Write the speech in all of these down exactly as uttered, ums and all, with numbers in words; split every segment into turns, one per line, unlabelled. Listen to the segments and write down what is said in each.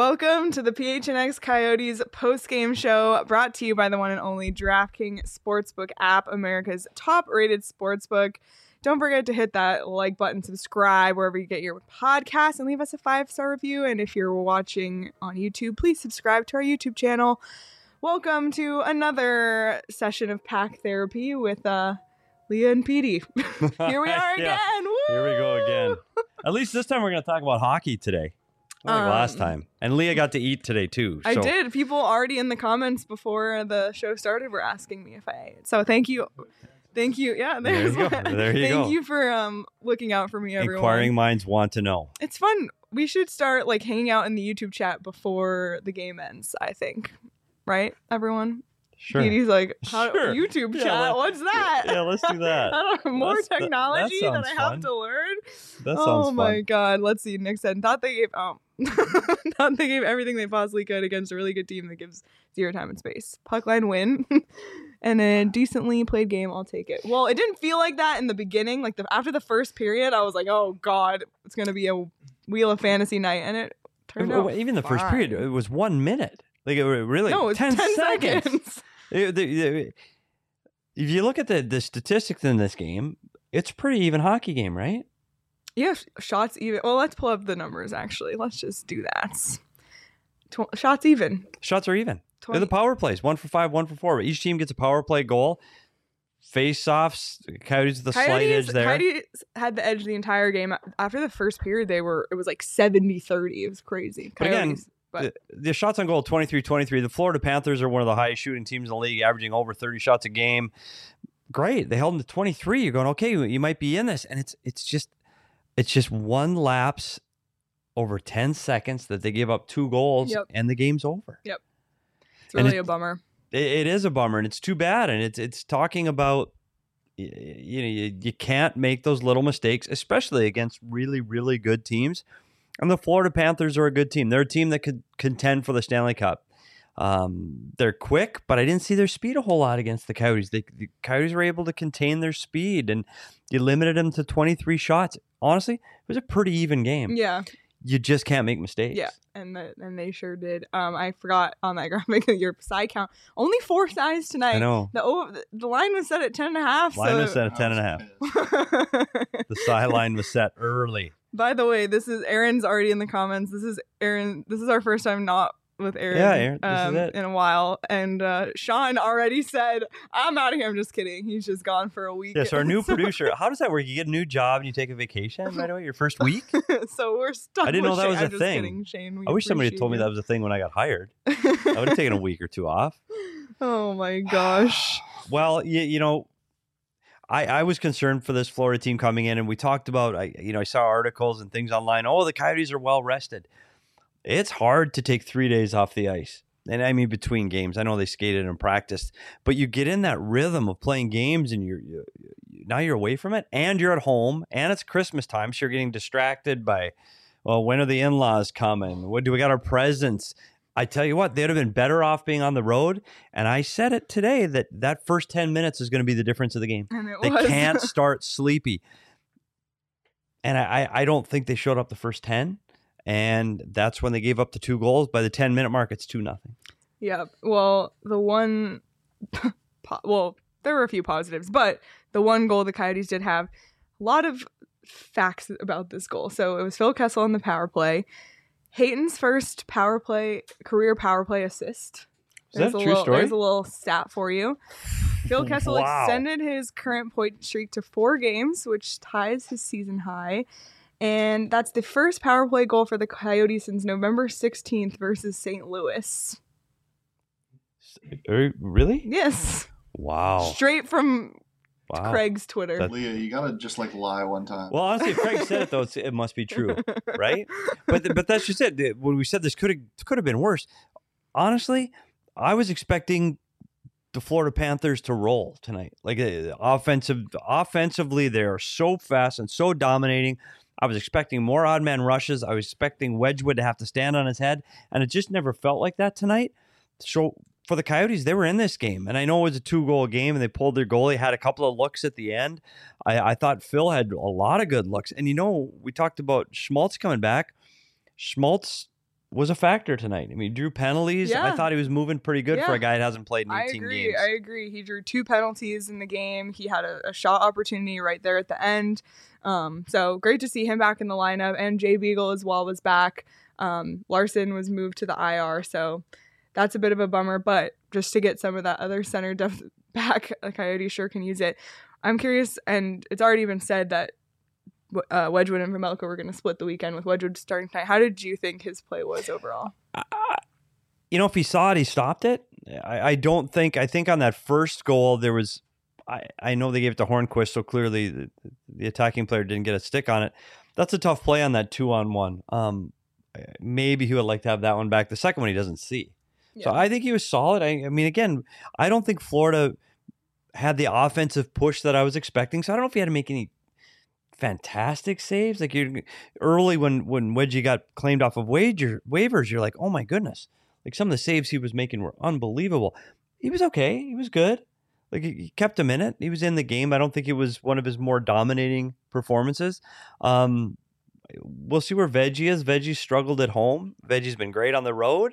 Welcome to the P H N X Coyotes post-game show, brought to you by the one and only DraftKings Sportsbook app, America's top-rated sportsbook. Don't forget to hit that like button, subscribe wherever you get your podcast, and leave us a five-star review. And if you're watching on YouTube, please subscribe to our YouTube channel. Welcome to another session of Pack Therapy with uh, Leah and Petey. Here we are
Yeah.
again. Woo!
Here we go again. At least this time we're going to talk about hockey today. Like
Um,
last time. And Leah got to eat today too.
I
so.
did. People already in the comments before the show started were asking me if I ate. So thank you. Thank you. Yeah,
There
there's
you go.
one.
There you
Thank
go.
you for um looking out for me, everyone.
Inquiring minds want to know.
It's fun. We should start like hanging out in the YouTube chat before the game ends, I think. Right, everyone?
Sure.
Petey's like, How,
Sure.
YouTube
Yeah,
chat?
let-
What's that?
Yeah, let's do that.
I don't know. More
That's- that- that
technology that,
sounds
I have
fun.
to learn.
That sounds
oh
fun.
my god. Let's see. Nick said, thought they gave um thought they gave everything they possibly could against a really good team that gives zero time and space. Puck line win. And a decently played game, I'll take it. Well, it didn't feel like that in the beginning. Like the after the first period, I was like, oh god, it's gonna be a Wheel of Fantasy night, and it turned
Well,
out
Even the first
fine.
period, it was one minute. Like it was really
no, it's
ten,
ten,
seconds.
seconds.
It- the- the- if you look at the, the statistics in this game, it's a pretty even hockey game, right?
Yeah, sh- shots even. Well, let's pull up the numbers. Actually, let's just do that. Tw- shots even.
Shots are even.
twenty
They're the power plays, one for five, one for four. Each team gets a power play goal. Face-offs, Coyotes with the slight
Coyotes,
edge there.
Coyotes had the edge the entire game. After the first period, they were it was like seventy thirty. It was crazy.
But again,
Coyotes, but
the, the shots on goal, twenty-three twenty-three. The Florida Panthers are one of the highest shooting teams in the league, averaging over thirty shots a game. Great. They held them to twenty-three. You're going, okay, you might be in this. And it's it's just it's just one lapse over ten seconds that they give up two goals,
Yep.
and the game's over.
it's
and
really
it-
a bummer.
It, it is a bummer, and it's too bad. And it's it's talking about y- you know you, you can't make those little mistakes, especially against really really good teams. And the Florida Panthers are a good team. They're a team that could contend for the Stanley Cup. Um, they're quick, but I didn't see their speed a whole lot against the Coyotes. They, the Coyotes were able to contain their speed, and you limited them to twenty-three shots. Honestly, it was a pretty even game.
Yeah,
You just can't make mistakes.
yeah, and the, and they sure did. Um, I forgot on that graphic that your side count only four sides tonight.
I know.
The over, the line was set at ten and a half.
Line
so
was set at ten and a half. The sideline was set early.
By the way, this is Aaron's already in the comments. This is Aaron. This is our first time not with Aaron,
Yeah, Aaron, this is
um,
it.
in a while. And uh, Sean already said, I'm out of here. I'm just kidding. He's just gone for a week.
Yeah, so our new
So-
producer, how does that work? You get a new job and you take a vacation right away, your first week?
so we're stuck.
I didn't know
with
that
Shane.
was a
I'm just
thing.
Kidding, Shane. We
I wish somebody had
appreciate
told me
you.
that was a thing when I got hired. I would have taken a week or two off.
Oh my gosh.
Well, you, you know, I, I was concerned for this Florida team coming in, and we talked about, I you know, I saw articles and things online. Oh, the Coyotes are well rested. It's hard to take three days off the ice. And I mean, between games, I know they skated and practiced, but you get in that rhythm of playing games, and you're you, now you're away from it, and you're at home, and it's Christmas time, so you're getting distracted by, well, when are the in-laws coming? What do we got our presents? I tell you what, they'd have been better off being on the road. And I said it today that that first ten minutes is going to be the difference of the game.
And it
They
was.
can't start sleepy. And I, I don't think they showed up the first ten. And that's when they gave up the two goals. By the ten minute mark, it's two nothing.
Yeah. Well, the one, po- well, there were a few positives, but the one goal the Coyotes did have, a lot of facts about this goal. So it was Phil Kessel on the power play. Hayton's first power play, career power play assist.
Is that a
There's
true
little,
story?
There's a little stat for you. Phil Kessel
Wow.
extended his current point streak to four games, which ties his season high. And that's the first power play goal for the Coyotes since November sixteenth versus Saint Louis.
Er, Really?
Yes.
Wow.
Straight from
Wow.
Craig's Twitter.
That-
Leah, you gotta just like lie one time.
Well, honestly, if Craig said it, though, it's, it must be true, right? But but that's just it. When we said this could have could have been worse, honestly, I was expecting the Florida Panthers to roll tonight. Like uh, offensive, offensively, they are so fast and so dominating. I was expecting more odd man rushes. I was expecting Wedgwood to have to stand on his head, and it just never felt like that tonight. So for the Coyotes, they were in this game, and I know it was a two-goal game, and they pulled their goalie, had a couple of looks at the end. I, I thought Phil had a lot of good looks, and you know, we talked about Schmaltz coming back. Schmaltz was a factor tonight. I mean, he drew penalties.
Yeah.
I thought he was moving pretty good
Yeah.
for a guy that hasn't played in
I
eighteen
agree.
games.
I agree. He drew two penalties in the game. He had a, a shot opportunity right there at the end. Um, so great to see him back in the lineup. And Jay Beagle as well was back. Um, Larson was moved to the I R. So that's a bit of a bummer. But just to get some of that other center depth back, the Coyotes sure can use it. I'm curious, and it's already been said that uh, Wedgwood and Vejmelka were going to split the weekend with Wedgwood starting tonight. How did you think his play was overall?
Uh, you know, if he saw it, he stopped it. I, I don't think, I think on that first goal, there was, I, I know they gave it to Hornquist, so clearly the, the attacking player didn't get a stick on it. That's a tough play on that two on one. Um, maybe he would like to have that one back. The second one he doesn't see. Yeah. So I think he was solid. I, I mean, again, I don't think Florida had the offensive push that I was expecting. So I don't know if he had to make any fantastic saves. Like you're early when, when Wedgie got claimed off of wager, waivers, you're like, oh my goodness. Like some of the saves he was making were unbelievable. He was okay. He was good. Like he kept him in it. He was in the game. I don't think it was one of his more dominating performances. Um, we'll see where Veggie is. Veggie struggled at home. Veggie's been great on the road.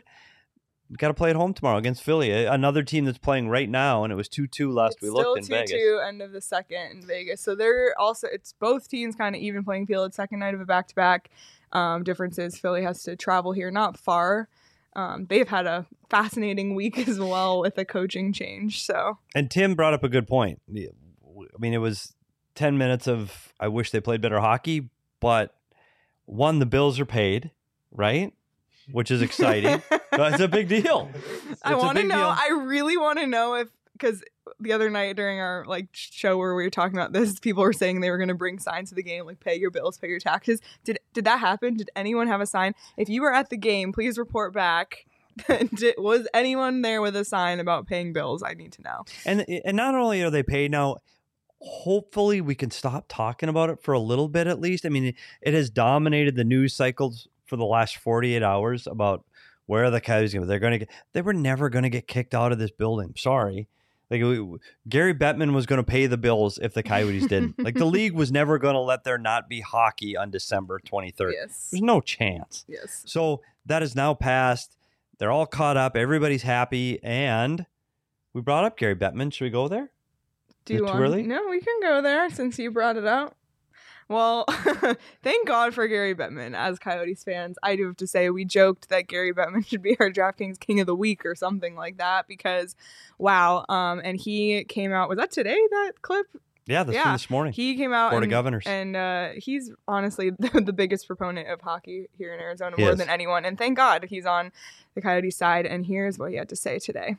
We got to play at home tomorrow against Philly, another team that's playing right now, and it was two two last
it's
we looked in
still
Vegas.
two two, end of the second in Vegas. So they're also, it's both teams kind of even playing field. Second night of a back-to-back. Um, difference is Philly has to travel here, not far. Um, they've had a fascinating week as well with a coaching change. So,
and Tim brought up a good point. I mean, it was ten minutes of I wish they played better hockey, but one, the bills are paid, right? Which is exciting. It's a big deal. It's
I want to know.
Deal.
I really want to know if, because the other night during our like show where we were talking about this, people were saying they were going to bring signs to the game, like pay your bills, pay your taxes. Did did that happen? Did anyone have a sign? If you were at the game, please report back. did, was anyone there with a sign about paying bills? I need to know.
And and not only are they paid now, hopefully we can stop talking about it for a little bit at least. I mean, it, it has dominated the news cycles for the last forty-eight hours about where are the Coyotes going. They're going to get. They were never going to get kicked out of this building. Sorry. Like we, Gary Bettman was going to pay the bills if the Coyotes didn't. Like the league was never going to let there not be hockey on December twenty-third.
Yes.
There's no chance.
Yes.
So that is now passed. They're all caught up. Everybody's happy. And we brought up Gary Bettman. Should we go there?
Do you want?
Early?
No, we can go there since you brought it up. Well, thank God for Gary Bettman. As Coyotes fans, I do have to say we joked that Gary Bettman should be our DraftKings King of the Week or something like that because, wow. Um, and he came out. Was that today? That clip?
Yeah, this,
yeah.
this morning.
He came out.
Board
and,
of Governors.
And uh, he's honestly the, the biggest proponent of hockey here in Arizona,
He
more
is.
than anyone. And thank God he's on the Coyotes side. And here's what he had to say today.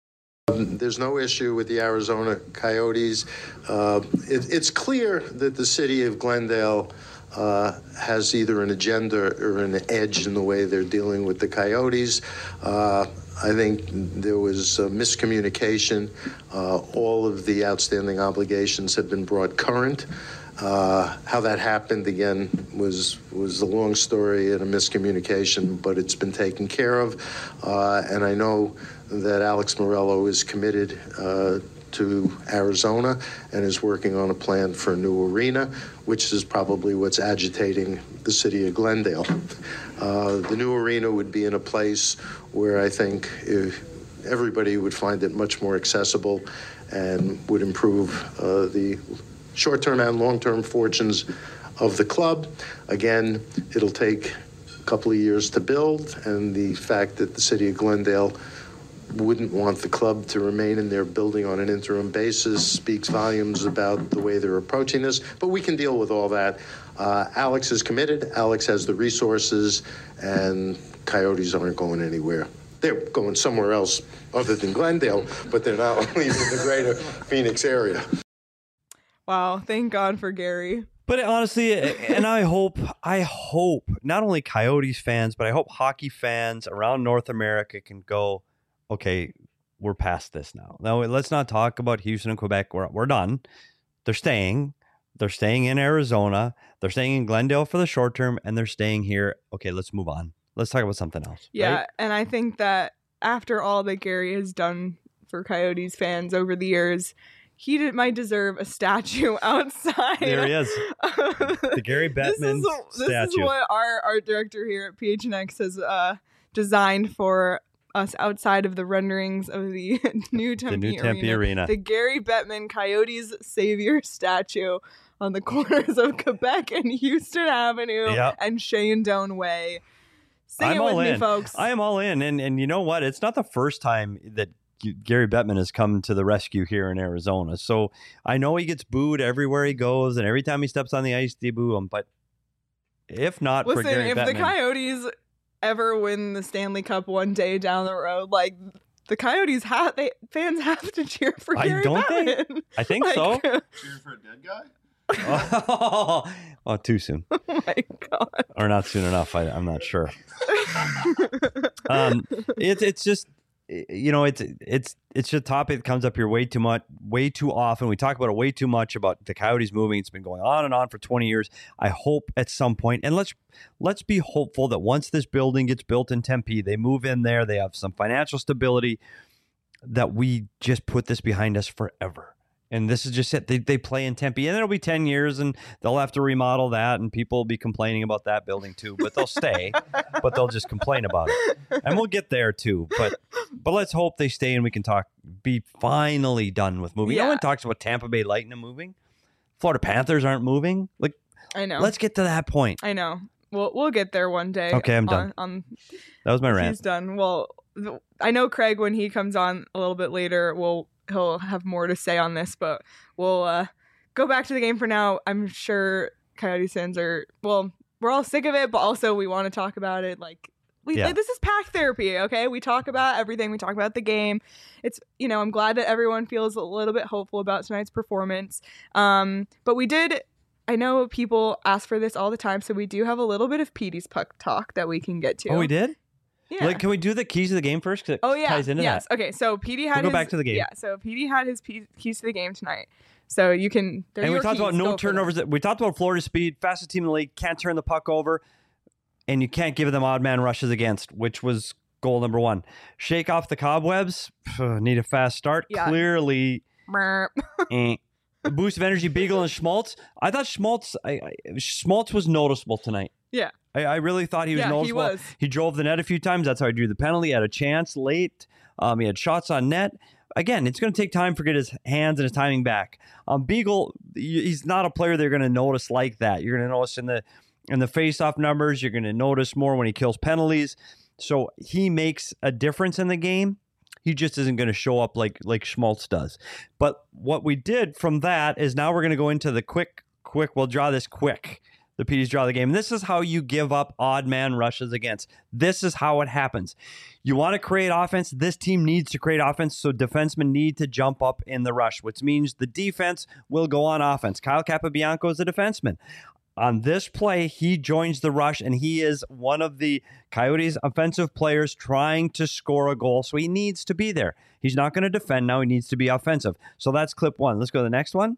There's no issue with the Arizona Coyotes. Uh, it, it's clear that the city of Glendale uh, has either an agenda or an edge in the way they're dealing with the Coyotes. Uh, I think there was uh, miscommunication. Uh, all of the outstanding obligations have been brought current. Uh, how that happened, again, was was a long story and a miscommunication, but it's been taken care of. Uh, and I know that Alex Morello is committed uh, to Arizona and is working on a plan for a new arena, which is probably what's agitating the city of Glendale. Uh, the new arena would be in a place where I think if everybody would find it much more accessible and would improve uh, the short-term and long-term fortunes of the club. Again, it'll take a couple of years to build, and the fact that the city of Glendale wouldn't want the club to remain in their building on an interim basis speaks volumes about the way they're approaching this, but we can deal with all that. Uh, Alex is committed, Alex has the resources, and Coyotes aren't going anywhere. They're going somewhere else other than Glendale, but they're not leaving the greater Phoenix area.
Wow, thank God for Gary.
But honestly, and I hope, I hope not only Coyotes fans, but I hope hockey fans around North America can go, okay, we're past this now. Now, let's not talk about Houston and Quebec. We're, we're done. They're staying. They're staying in Arizona. They're staying in Glendale for the short term, and they're staying here. Okay, let's move on. Let's talk about something else.
Yeah,
right?
And I think that after all that Gary has done for Coyotes fans over the years, he did, might deserve a statue outside.
There he is. The Gary Bettman
this is,
statue.
This is what our art director here at P H N X has uh, designed for us outside of the renderings of the new Tempe,
the new Tempe
Arena.
Arena.
The Gary Bettman Coyotes Savior statue on the corners of Quebec and Houston Avenue
Yep.
and Shenandoah Way. Sing
I'm
it with
all
me,
in.
folks.
I am all in. And and you know what? It's not the first time that Gary Bettman has come to the rescue here in Arizona. So I know he gets booed everywhere he goes, and every time he steps on the ice, they boo him. But if not
Listen,
for Gary
if
Bettman,
the Coyotes ever win the Stanley Cup one day down the road, like the Coyotes have, they fans have to cheer for
I
Gary
don't
Bettman.
think- I think
Like,
so.
Cheer for a dead guy?
oh, oh, too soon,
Oh my god.
or not soon enough. I, I'm not sure. um, it's it's just you know it's it's it's a topic that comes up here way too much, way too often. We talk about it way too much about the Coyotes moving. It's been going on and on for twenty years. I hope at some point, and let's let's be hopeful that once this building gets built in Tempe, they move in there, they have some financial stability, that we just put this behind us forever. And this is just it. They, they play in Tempe, and it'll be ten years, and they'll have to remodel that, and people will be complaining about that building too. But they'll stay, but they'll just complain about it, and we'll get there too. But but let's hope they stay, and we can talk. Be finally done with moving.
Yeah.
No one talks about Tampa Bay Lightning moving. Florida Panthers aren't moving. Like,
I know.
let's get to that point.
I know. We'll we'll get there one day.
Okay, I'm
on,
done.
On,
That was my rant.
He's done. Well, th- I know Craig, when he comes on a little bit later, will he'll have more to say on this, but we'll uh, go back to the game for now. I'm sure Coyotes fans are, well, we're all sick of it, but also we want to talk about it. Like, we
Yeah.
like, this is pack therapy, okay? We talk about everything. We talk about the game. It's, you know, I'm glad that everyone feels a little bit hopeful about tonight's performance. Um, but we did, I know people ask for this all the time, so we do have a little bit of Petey's puck talk that we can get to.
Oh, we did?
Yeah.
Like, can we do the keys to the game first? 'Cause it
Oh yeah,
ties into
yes.
that.
Okay, so Petey had
We'll go
his,
back to the game.
Yeah, so Petey had his pe- keys to the game tonight. So you can.
And we talked about no turnovers. We talked about Florida speed, fastest team in the league, can't turn the puck over, and you can't give them odd man rushes against, which was goal number one. Shake off the cobwebs. Phew, need a fast start.
Yeah.
Clearly, eh. A boost of energy. Beagle and Schmaltz. I thought Schmaltz. I, I, Schmaltz was noticeable tonight.
Yeah.
I, I really thought he was
Yeah, he
noticeable.
was.
He drove the net a few times. That's how he drew the penalty. He had a chance late. Um, he had shots on net. Again, it's going to take time for get his hands and his timing back. Um, Beagle, he's not a player they're going to notice like that. You're going to notice in the in the face-off numbers. You're going to notice more when he kills penalties. So he makes a difference in the game. He just isn't going to show up like like Schmaltz does. But what we did from that is now we're going to go into the quick, quick. We'll draw this quick. The P Ds draw the game. And this is how you give up odd man rushes against. This is how it happens. You want to create offense. This team needs to create offense, so defensemen need to jump up in the rush, which means the defense will go on offense. Kyle Capobianco is a defenseman. On this play, he joins the rush, and he is one of the Coyotes' offensive players trying to score a goal, so he needs to be there. He's not going to defend now. He needs to be offensive. So that's clip one. Let's go to the next one.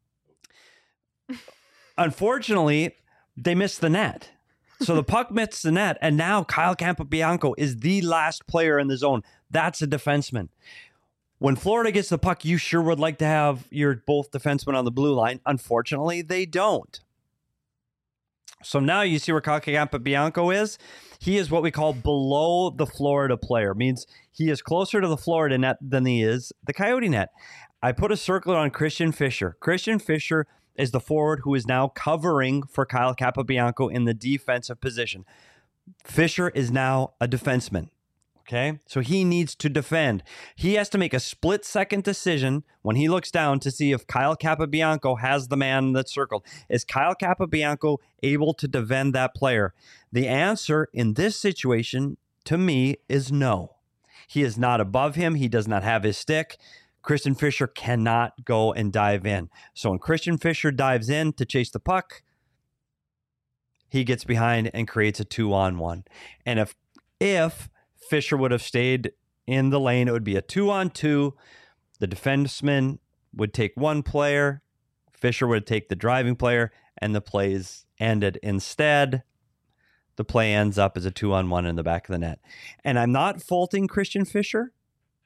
Unfortunately, they missed the net. So the puck missed the net, and now Kyle Capobianco is the last player in the zone. That's a defenseman. When Florida gets the puck, you sure would like to have your both defensemen on the blue line. Unfortunately, they don't. So now you see where Kyle Capobianco is. He is what we call below the Florida player. Means he is closer to the Florida net than he is the Coyote net. I put a circle on Christian Fischer. Christian Fischer is the forward who is now covering for Kyle Capobianco in the defensive position. Fischer is now a defenseman. Okay, so he needs to defend. He has to make a split-second decision when he looks down to see if Kyle Capobianco has the man that's circled. Is Kyle Capobianco able to defend that player? The answer in this situation, to me, is no. He is not above him. He does not have his stick. Christian Fischer cannot go and dive in. So when Christian Fischer dives in to chase the puck, he gets behind and creates a two-on-one. And if if Fischer would have stayed in the lane, it would be a two-on-two. The defenseman would take one player. Fischer would take the driving player, and the plays ended. Instead, the play ends up as a two-on-one in the back of the net. And I'm not faulting Christian Fischer.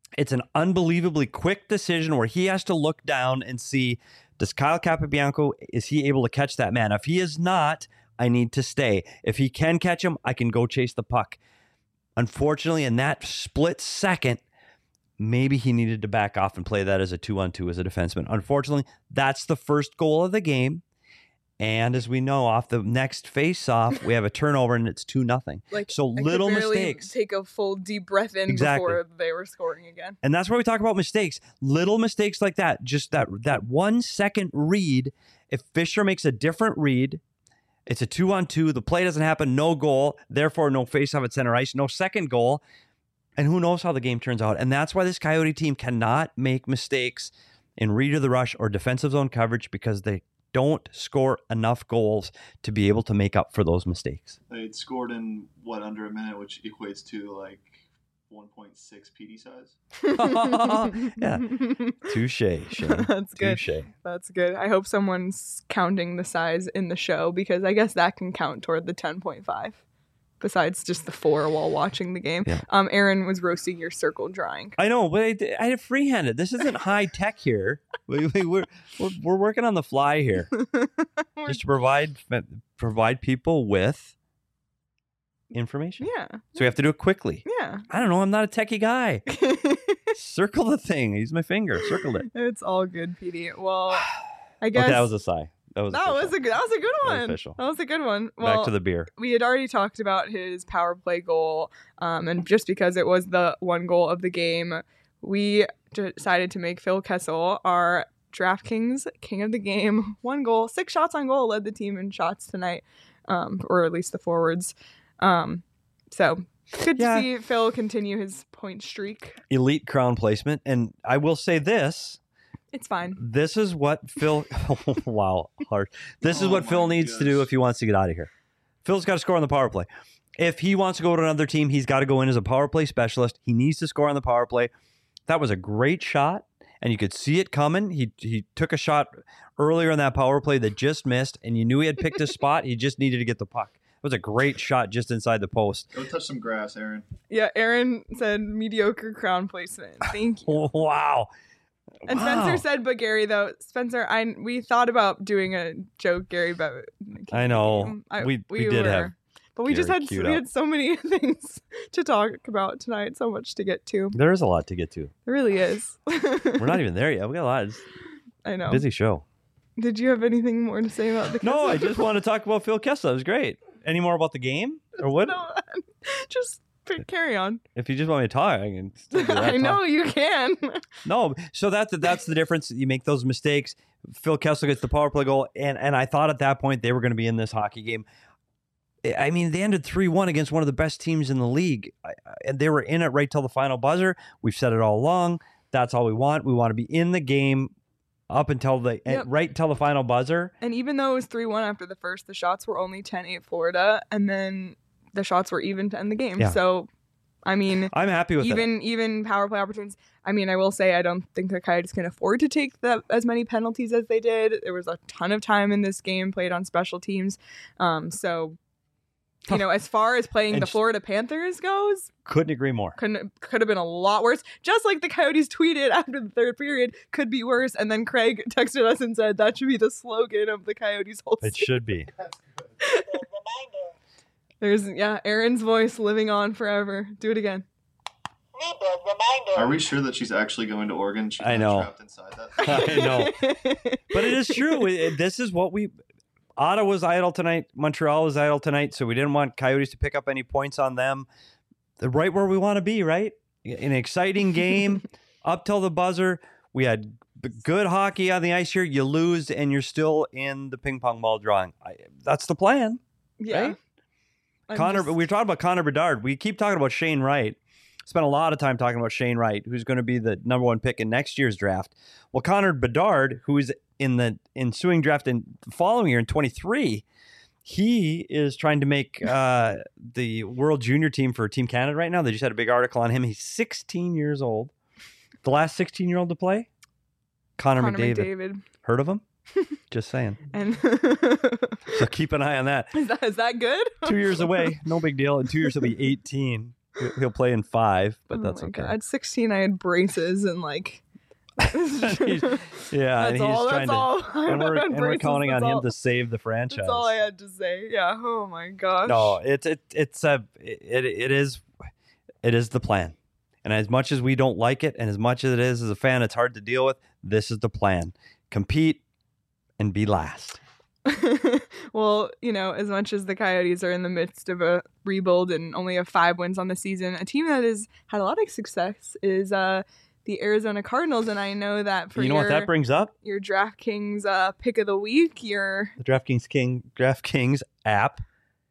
It's an unbelievably quick decision where he has to look down and see, does Kyle Capobianco, is he able to catch that man? If he is not, I need to stay. If he can catch him, I can go chase the puck. Unfortunately, in that split second, maybe he needed to back off and play that as a two-on-two as a defenseman. Unfortunately, that's the first goal of the game. And as we know, off the next face-off, we have a turnover and it's two nothing.
Like,
so
I
little
could barely
mistakes.
Take a full deep breath in
Exactly.
before they were scoring again.
And that's why we talk about mistakes. Little mistakes like that. Just that that one second read. If Fisher makes a different read, it's a two-on-two. The play doesn't happen. No goal. Therefore, no face-off at center ice. No second goal. And who knows how the game turns out. And that's why this Coyote team cannot make mistakes in read of the rush or defensive zone coverage because they don't score enough goals to be able to make up for those mistakes.
They scored in, what, under a minute, which equates to like one point six P D size.
Yeah. Touche, Shane.
That's good.
Touche.
That's good. I hope someone's counting the size in the show because I guess that can count toward the ten point five. Besides just the four while watching the game.
Yeah.
Um, Aaron was roasting your circle drawing.
I know, but I, I had freehanded. This isn't high tech here. We, we, we're, we're we're working on the fly here, just to provide provide people with information.
Yeah.
So we have to do it quickly.
Yeah.
I don't know. I'm not a techie guy. Circle the thing. Use my finger. Circled it.
It's all good, P D. Well, I guess
Okay, that was a sigh. That was
that was
official.
a good. That was a good
That was
one.
official.
That was a good one. Well,
Back to the beer.
we had already talked about his power play goal, um, and just because it was the one goal of the game, we decided to make Phil Kessel our DraftKings king of the game. One goal, six shots on goal, led the team in shots tonight, um, or at least the forwards. Um, so good
Yeah.
to see Phil continue his point streak.
Elite crown placement. And I will say this.
It's fine.
This is what Phil... wow, hard. This is
Oh
what Phil
my
needs to do
gosh.
if he wants to get out of here. Phil's got to score on the power play. If he wants to go to another team, he's got to go in as a power play specialist. He needs to score on the power play. That was a great shot, and you could see it coming. He he took a shot earlier in that power play that just missed, and you knew he had picked his spot. He just needed to get the puck. It was a great shot just inside the post.
Go touch some grass, Aaron.
Yeah, Aaron said mediocre crown placement. Thank you.
Wow.
And
Wow.
Spencer said, but Gary, though, Spencer, I we thought about doing a joke, Gary, but
I know. We- we did have
but we just
Gary
had
queued
we
up.
had so many things to talk about tonight, so much to get to.
There is a lot to get to.
There really is.
We're not even there yet. We got a lot. It's
I know.
a busy show.
Did you have anything more to say about the?
No, I
Kessel?
just want to talk about Phil Kessel. It was great. Any more about the game or what?
No, just p- carry on.
If you just want me to talk, I can. Still do that
I know
talk.
you can.
No, so that's that's the difference. You make those mistakes. Phil Kessel gets the power play goal, and and I thought at that point they were going to be in this hockey game. I mean, they ended three one against one of the best teams in the league, I- I- and they were in it right till the final buzzer. We've said it all along. That's all we want. We want to be in the game up until the
Yep.
right until the final buzzer.
And even though it was three one after the first, the shots were only ten eight Florida, and then the shots were even to end the game.
Yeah.
So, I mean,
I'm happy with
even even power play opportunities. I mean, I will say I don't think the Coyotes can afford to take the, as many penalties as they did. There was a ton of time in this game played on special teams. Um, so, you know, as far as playing
And
the
sh-
Florida Panthers goes,
that. Couldn't agree more.
couldn't could have been a lot worse. Just like the Coyotes tweeted after the third period, could be worse. And then Craig texted us and said that should be the slogan of the Coyotes whole
It
season.
should be.
There's yeah, Aaron's voice living on forever. Do it again.
Are we sure that she's actually going to Oregon? She's
I
not
know.
trapped inside that.
I know. But it is true. It- it- this is what we. Ottawa's idle tonight. Montreal is idle tonight. So we didn't want Coyotes to pick up any points on them. They're right where we want to be, right? An exciting game up till the buzzer. We had b- good hockey on the ice here. You lose and you're still in the ping pong ball drawing. I, that's the plan.
Yeah.
Right?
I'm
Connor,
just-
we were talking about Connor Bedard. We keep talking about Shane Wright. Spent a lot of time talking about Shane Wright, who's going to be the number one pick in next year's draft. Well, Connor Bedard, who is in the ensuing draft in the following year in twenty-three, he is trying to make uh, the World Junior team for Team Canada right now. They just had a big article on him. He's sixteen years old. The last sixteen-year-old to play? Connor,
Connor
McDavid.
McDavid.
Heard of him? Just saying.
And
So keep an eye on that.
is that is that good?
Two years away, no big deal. In two years, he'll be eighteen. He'll- He'll play in five, but
Oh
that's
my
okay.
God. At sixteen, I had braces and like.
He's- yeah, and
That's
he's
all.
trying
That's
to.
all.
And we're,
I had
and we're
braces,
counting on
that's
him
all-
to save the franchise.
That's all I had to say. Yeah. Oh my gosh.
No, it's it, it's a it, it is it is the plan. And as much as we don't like it, and as much as it is as a fan, it's hard to deal with. This is the plan: compete and be last.
Well, you know, as much as the Coyotes are in the midst of a rebuild and only have five wins on the season, a team that has had a lot of success is uh, the Arizona Cardinals. And I know that for
You know
your,
what that brings up?
your DraftKings uh, pick of the week, your
The DraftKings King DraftKings app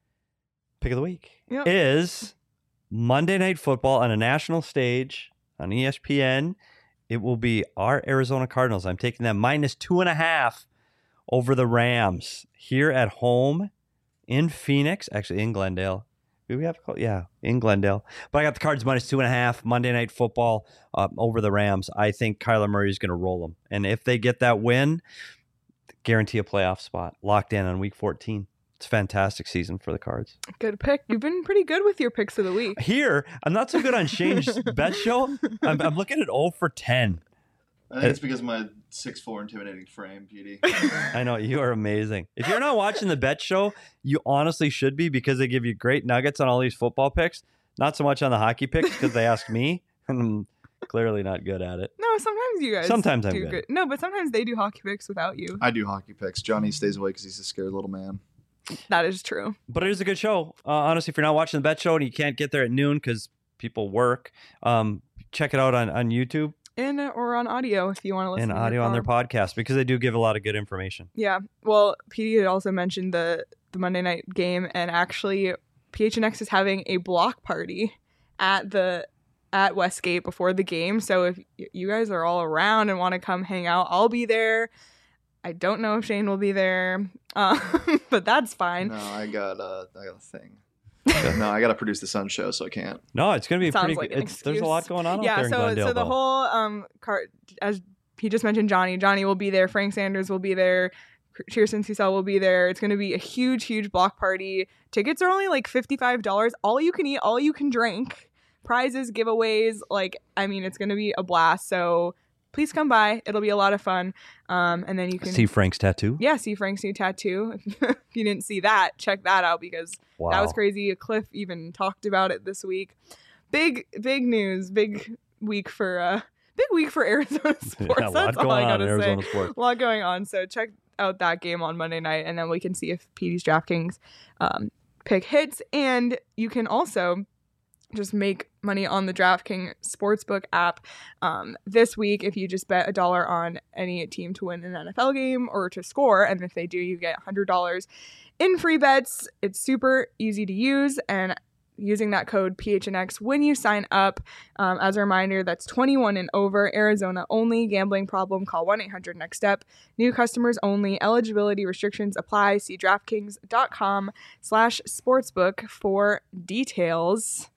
pick of the week
Yep.
is Monday Night Football on a national stage on E S P N. It will be our Arizona Cardinals. I'm taking them minus two and a half over the Rams here at home in Phoenix, actually in Glendale. Do we have to call? Yeah, in Glendale. But I got the Cards minus two and a half Monday Night Football uh, over the Rams. I think Kyler Murray is going to roll them, and if they get that win, guarantee a playoff spot locked in on Week fourteen. It's a fantastic season for the Cards.
good pick. You've been pretty good with your picks of the week.
Here, I'm not so good on Shane's bet show. I'm, I'm looking at zero for ten.
I think it's because of my six foot four intimidating frame, P D.
I know, you are amazing. If you're not watching the bet show, you honestly should be, because they give you great nuggets on all these football picks. Not so much on the hockey picks, because they ask me, and I'm clearly not good at it.
No, sometimes you guys
Sometimes I'm
do
good.
No, but sometimes they do hockey picks without you.
I do hockey picks. Johnny stays away because he's a scared little man.
That is true.
But it is a good show. Uh, honestly, if you're not watching the bet show and you can't get there at noon because people work, um, check it out on, on YouTube
In or on audio if you want to listen
and
to
audio
your
on their
car.
podcast, because they do give a lot of good information.
Yeah. Well, P D had also mentioned the the Monday night game, and actually P H N X is having a block party at the at Westgate before the game. So if y- you guys are all around and want to come hang out, I'll be there. I don't know if Shane will be there, um, but that's fine.
No, I got uh, I got a thing. no, I got to produce the Sun Show, so I can't.
No, it's going to be
Sounds
pretty
like
good.
an
It's, there's a lot
excuse.
going on out
Yeah,
there in
so
Glendale.
so the
though.
whole um car as he just mentioned, Johnny. Johnny will be there. Frank Sanders will be there. Kirsten Cecil will be there. It's going to be a huge, huge block party. Tickets are only like fifty-five dollars. All you can eat, all you can drink. Prizes, giveaways. Like, I mean, it's going to be a blast. So please come by. It'll be a lot of fun. Um, and then you can
See Frank's tattoo?
yeah, see Frank's new tattoo. If you didn't see that, check that out, because
Wow.
that was crazy. Cliff even talked about it this week. Big, big news. Big week for uh, big week for Arizona sports.
Yeah, a lot
That's all
going
I
on in
gotta say.
Arizona sports.
A lot going on. So check out that game on Monday night, and then we can see if P D's DraftKings um, pick hits. And you can also just make money on the DraftKings Sportsbook app um, this week if you just bet a dollar on any team to win an N F L game or to score. And if they do, you get one hundred dollars in free bets. It's super easy to use, and using that code P H N X when you sign up. Um, as a reminder, that's twenty-one and over, Arizona only. Gambling problem, call one eight hundred next step. New customers only. Eligibility restrictions apply. See DraftKings.com slash sportsbook for details.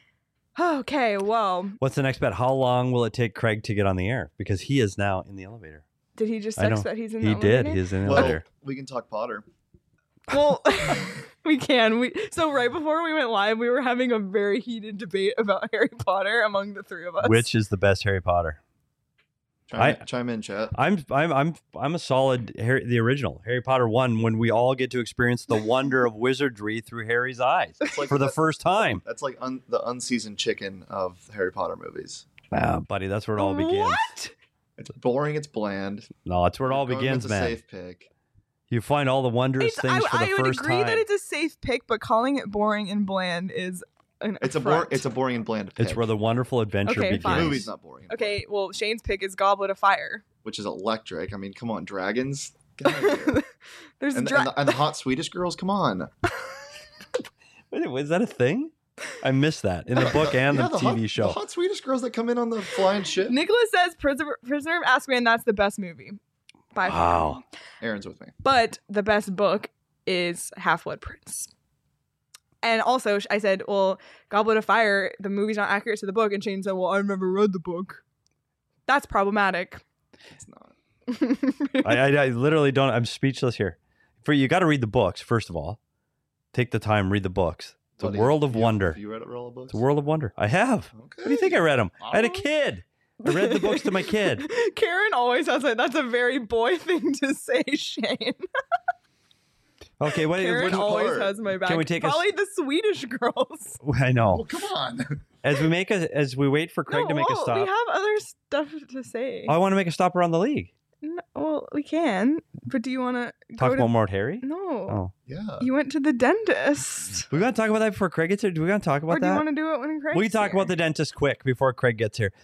Okay, well,
What's the next bet? How long will it take Craig to get on the air? Because he is now in the elevator.
did he just
I
text
know.
that he's in
He
the
did.
elevator?
He's in the
Well,
elevator.
we can talk Potter.
Well, we can. We so right before we went live, we were having a very heated debate about Harry Potter among the three of us.
Which is the best Harry Potter?
Chime,
I-
in, chime in, chat.
I'm I'm I'm I'm a solid Harry, the original Harry Potter one, when we all get to experience the wonder of wizardry through Harry's eyes
It's like
for the
that-
first time.
That's like un, the unseasoned chicken of Harry Potter movies.
Ah, buddy, that's where it all begins.
What?
It's boring. It's bland.
No, that's where it all
Going
begins,
with a
man.
safe pick.
You find all the wondrous
It's,
things
I,
for the
I would
first
agree
time.
that it's a safe pick, but calling it boring and bland is an
It's a bor-
affront.
It's a boring and bland pick.
It's where the wonderful adventure
Okay,
begins.
the
fine.
movie's not boring. and
Okay, well, Shane's pick is Goblet of Fire.
which is electric. I mean, come on, dragons. Get out of here.
There's
and,
dra-
and, the, and the hot Swedish girls. Come on.
Wait, was that a thing? I missed that in the book and
Yeah,
the, T V
hot,
show.
The hot Swedish girls that come in on the flying ship.
Nicholas says Prisoner, Prisoner of Azkaban, that's the best movie. By far.
Wow.
Aaron's with me.
But the best book is Half-Blood Prince. And also, I said, well, Goblet of Fire, the movie's not accurate to the book. And Shane said, well, I've never read the book. That's problematic.
It's not.
I, I, I literally don't. I'm speechless here. For you, got to read the books first of all. Take the time, read the books. It's a
Buddy,
world of
you-
wonder.
Have you read all the books?
It's a world of wonder. I have.
Okay.
What do you think I read them? I had a
Alright.
kid. I read the books to my kid.
Karen always has it. That's a very boy thing to say, Shane.
Okay, what,
Karen
what
always
part?
has my back.
we take a s-
Probably the Swedish girls.
I know.
Oh, come on.
As we make a, as we wait for Craig
No,
to make a
well,
stop,
We have other stuff to say.
I want to make a stop around the league.
No, well, we can. But do you want to
Talk
go
about
to...
Mort Harry.
No.
Oh,
Yeah.
You went to the dentist.
we gotta talk about that before Craig gets here. Do we gotta talk about
Or do you
that?
want to do it when Craig's
We talk
here?
about the dentist quick before Craig gets here.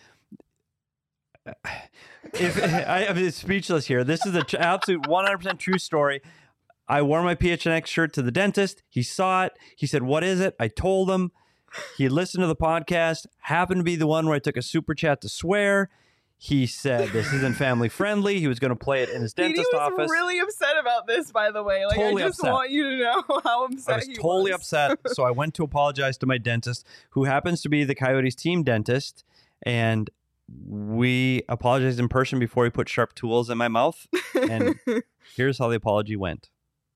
If I am speechless here, this is an tr- absolute one hundred percent true story. I wore my P H N X shirt to the dentist. He saw it. He said, "What is it?" I told him. He listened to the podcast. Happened to be the one where I took a super chat to swear. He said this isn't family friendly. He was going to play it in his
Petey
dentist
was
office.
really upset about this, by the way. Like,
Totally
I just
upset.
want you to know how upset
I was
he
totally
was.
upset. So I went to apologize to my dentist, who happens to be the Coyotes team dentist. And we apologized in person before he put sharp tools in my mouth. And here's how the apology went.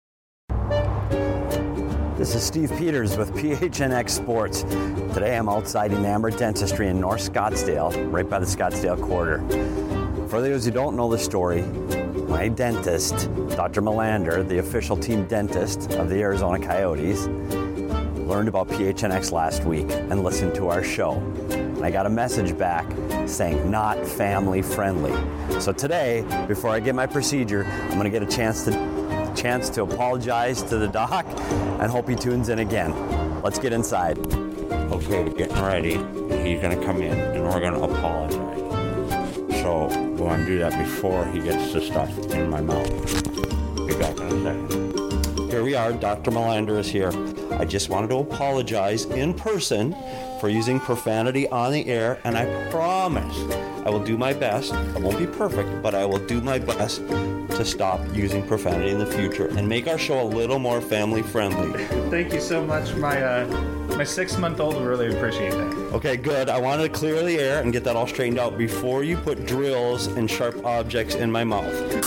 This is Steve Peters with P H N X Sports. Today I'm outside Enamored Dentistry in North Scottsdale, right by the Scottsdale Quarter. For those who don't know the story, my dentist, Doctor Melander, the official team dentist of the Arizona Coyotes, learned about P H N X last week and listened to our show. And I got a message back saying not family friendly. So today, before I get my procedure, I'm going to get a chance to chance to apologize to the doc and hope he tunes in again. Let's get inside.
Okay, we're getting ready. He's gonna come in and we're gonna apologize. So we're gonna do that before he gets the stuff in my mouth. Be back in a second.
Here we are. Doctor Melander is here. I just wanted to apologize in person for using profanity on the air, and I promise I will do my best. I won't be perfect, but I will do my best to stop using profanity in the future and make our show a little more family friendly.
Thank you so much. My uh, my six month old will really appreciate that.
Okay, good. I wanted to clear the air and get that all straightened out before you put drills and sharp objects in my mouth.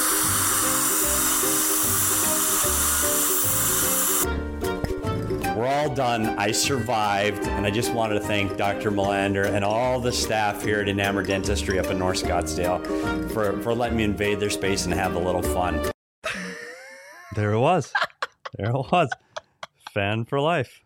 We're all done. I survived, and I just wanted to thank Doctor Melander and all the staff here at Enamored Dentistry up in North Scottsdale for, for letting me invade their space and have a little fun. There it was. There it was. Fan for life.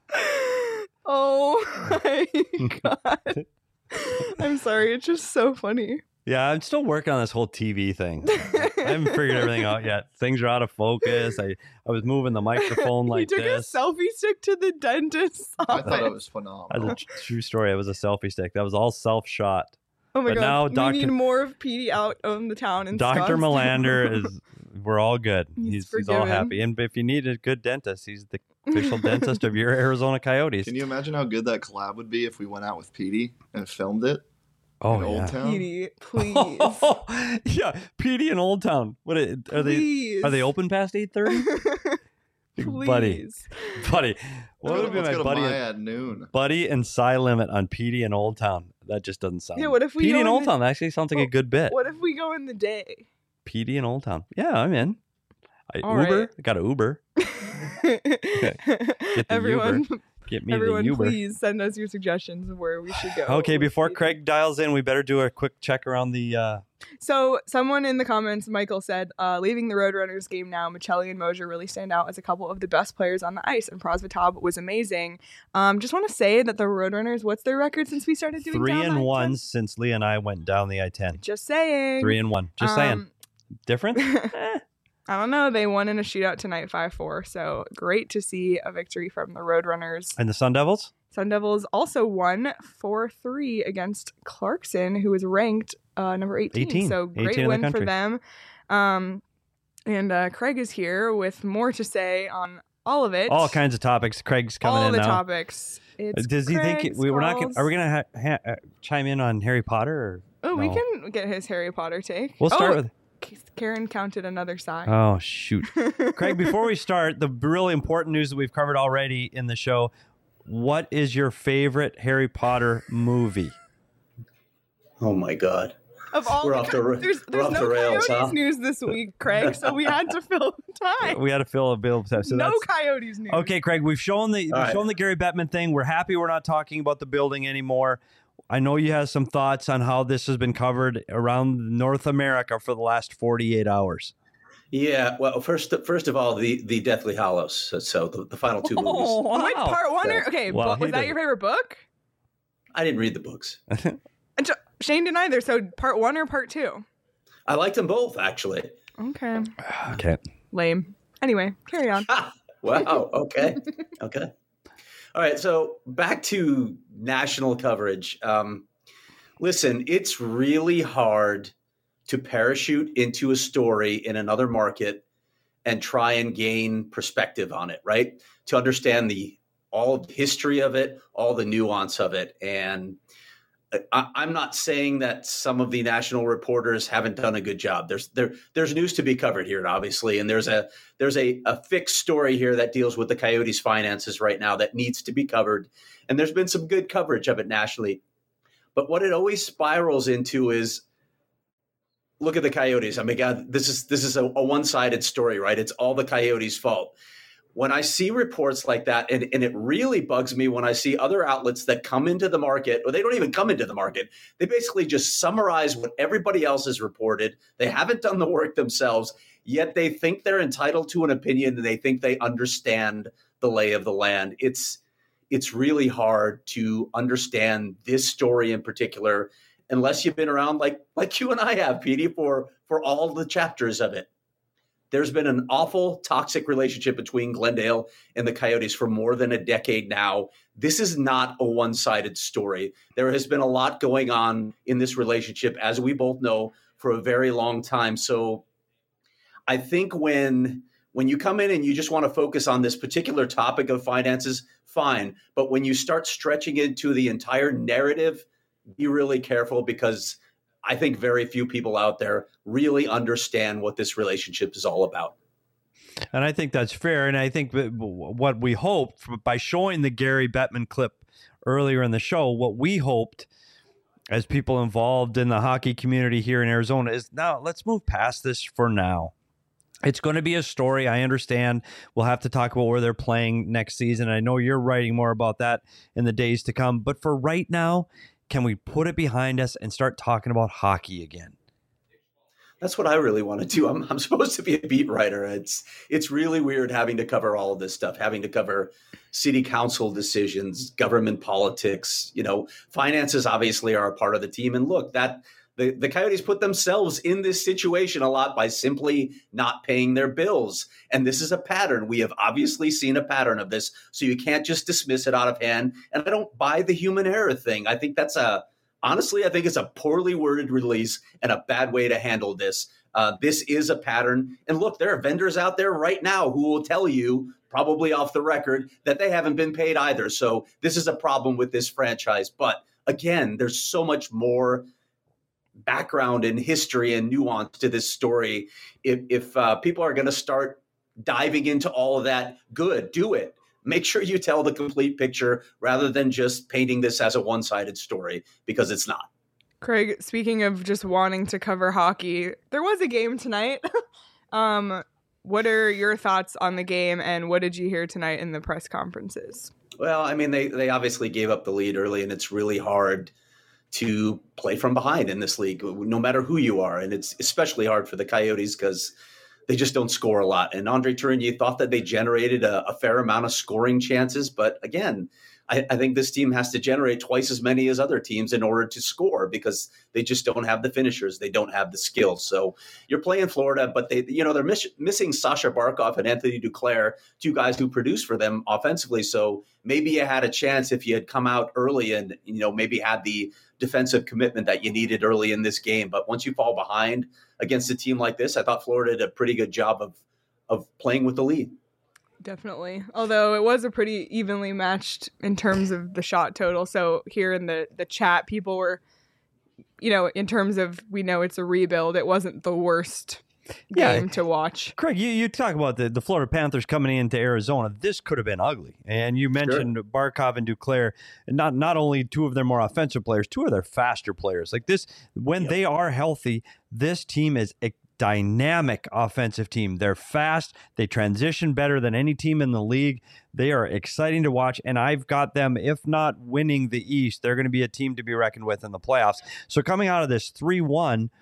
Oh my god. I'm sorry. It's just so funny.
Yeah, I'm still working on this whole T V thing. I haven't figured everything out yet. Things are out of focus. I, I was moving the microphone like
you took
this.
a selfie stick to the dentist's
I
office.
thought it was
That's
phenomenal.
a tr- true story. It was a selfie stick. That was all self-shot.
Oh my
but
god.
now
we
Doctor
need more of Petey out on the town. In
Doctor
Scottsdale.
Melander is, we're all good.
He's
He's, he's all
forgiven.
happy. And if you need a good dentist, he's the official dentist of your Arizona Coyotes.
Can you imagine how good that collab would be if we went out with Petey and filmed it
oh,
in Old
yeah.
Town?
Petey, please.
yeah, Petey in Old Town. What are they?
Please.
Are they open past eight thirty?
Please.
buddy, buddy. What
Let's
would
go-
be
let's
my
go to
buddy?
Maya at noon.
Buddy and Cy Limit on Petey in Old Town. That just doesn't sound.
Yeah, what if we
Petey
go
in
in
Old
the-
Town? That actually sounds like a
Well,
good bit.
What if we go in the day?
Petey in Old Town. Yeah, I'm in. I
All
Uber.
right.
I got an Uber. the
everyone,
Get me
everyone,
the Uber.
please send us your suggestions of where we should go.
Okay,
with
before
Petey.
Craig dials in, we better do a quick check around the. Uh,
So, someone in the comments, Michael said, uh, leaving the Roadrunners game now, Michelli and Mosier really stand out as a couple of the best players on the ice, and Prosvetov was amazing. Um, just want to say that the Roadrunners, what's their record since we started doing
three
down
and
the I
one
ten?
since Lee and I went down the I ten.
Just saying.
Three and one. Just saying.
Um,
Different? Eh.
I don't know. They won in a shootout tonight, five four. So great to see a victory from the Roadrunners.
And the Sun Devils?
Sun Devils also won four three against Clarkson, who was ranked uh, number eighteen.
eighteen.
So great
eighteen in the
win for
country.
them. Um, and uh, Craig is here with more to say on all of it.
All kinds of topics. Craig's coming
all
in
the
now.
topics. It's
Does he think
Craig's
we were not? Gonna,
calls.
are we going to ha- ha- uh, chime in on Harry Potter? Or
Oh, we
no?
can get his Harry Potter take.
We'll start
oh,
with.
Karen counted another sigh.
Oh shoot, Craig! Before we start, the really important news that we've covered already in the show. What is your favorite Harry Potter movie?
Oh my god.
Of all
We're
the
off
co-
the ra-
there's
we're
there's
off
no
the rails,
Coyotes
huh?
news this week, Craig, so we had to fill time.
We had to fill a bill. So
no
that's,
Coyotes news.
okay, Craig, we've shown the we've
right.
shown the Gary Bettman thing. We're happy we're not talking about the building anymore. I know you have some thoughts on how this has been covered around North America for the last forty-eight hours.
Yeah, well, first first of all, the the Deathly Hallows. So, so the, the final two movies.
Oh, wow.
Wait, part one or okay,
Well,
but was
he
that
did.
your favorite book?
I didn't read the books.
And Sh- Shane didn't either. So part one or part two?
I liked them both, actually.
Okay,
Okay.
lame. Anyway, carry on.
Ha! Wow. Okay. Okay. All right. So back to national coverage. Um, listen, it's really hard to parachute into a story in another market and try and gain perspective on it, right? To understand the all the history of it, all the nuance of it. And I, I'm not saying that some of the national reporters haven't done a good job. There's there there's news to be covered here, obviously, and there's a there's a, a fixed story here that deals with the Coyotes' finances right now that needs to be covered. And there's been some good coverage of it nationally. But what it always spirals into is, look at the Coyotes. I mean, God, this is this is a, a one-sided story, right? It's all the Coyotes' fault. When I see reports like that, and, and it really bugs me when I see other outlets that come into the market, or they don't even come into the market. They basically just summarize what everybody else has reported. They haven't done the work themselves, yet they think they're entitled to an opinion and they think they understand the lay of the land. It's it's really hard to understand this story in particular unless you've been around like like you and I have, Petey, for, for all the chapters of it. There's been an awful toxic relationship between Glendale and the Coyotes for more than a decade now. This is not a one-sided story. There has been a lot going on in this relationship, as we both know, for a very long time. So I think when when you come in and you just want to focus on this particular topic of finances, fine. But when you start stretching into the entire narrative, be really careful, because I think very few people out there really understand what this relationship is all about.
And I think that's fair. And I think that what we hoped by showing the Gary Bettman clip earlier in the show, what we hoped as people involved in the hockey community here in Arizona is, now let's move past this for now. It's going to be a story. I understand. We'll have to talk about where they're playing next season. I know you're writing more about that in the days to come. But for right now, can we put it behind us and start talking about hockey again?
That's what I really want to do. I'm, I'm supposed to be a beat writer. It's it's really weird having to cover all of this stuff, having to cover city council decisions, government politics. You know, finances obviously are a part of the team. And look, that the, the Coyotes put themselves in this situation a lot by simply not paying their bills. And this is a pattern. We have obviously seen a pattern of this. So you can't just dismiss it out of hand. And I don't buy the human error thing. I think that's a Honestly, I think it's a poorly worded release and a bad way to handle this. Uh, this is a pattern. And look, there are vendors out there right now who will tell you, probably off the record, that they haven't been paid either. So this is a problem with this franchise. But again, there's so much more background and history and nuance to this story. If, if uh, people are going to start diving into all of that, good, do it. Make sure you tell the complete picture rather than just painting this as a one-sided story, because it's not.
Craig, speaking of just wanting to cover hockey, there was a game tonight. um, what are your thoughts on the game, and what did you hear tonight in the press conferences?
Well, I mean, they, they obviously gave up the lead early, and it's really hard to play from behind in this league, no matter who you are. And it's especially hard for the Coyotes because they just don't score a lot. And Andre Tourigny thought that they generated a, a fair amount of scoring chances. But again, I, I think this team has to generate twice as many as other teams in order to score, because they just don't have the finishers. They don't have the skills. So you're playing Florida, but they, you know, they're miss, missing Sasha Barkov and Anthony Duclair, two guys who produce for them offensively. So maybe you had a chance if you had come out early and, you know, maybe had the defensive commitment that you needed early in this game. But once you fall behind against a team like this, I thought Florida did a pretty good job of of playing with the lead.
Definitely. Although it was a pretty evenly matched in terms of the shot total. So here in the, the chat, people were, you know, in terms of, we know it's a rebuild, it wasn't the worst
Yeah.
game to watch.
Craig, you, you talk about the, the Florida Panthers coming into Arizona. This could have been ugly. And you mentioned sure. Barkov and Duclair, not not only two of their more offensive players, two of their faster players. Like this, when yep. they are healthy, this team is a dynamic offensive team. They're fast. They transition better than any team in the league. They are exciting to watch. And I've got them, if not winning the East, they're going to be a team to be reckoned with in the playoffs. So coming out of this three one,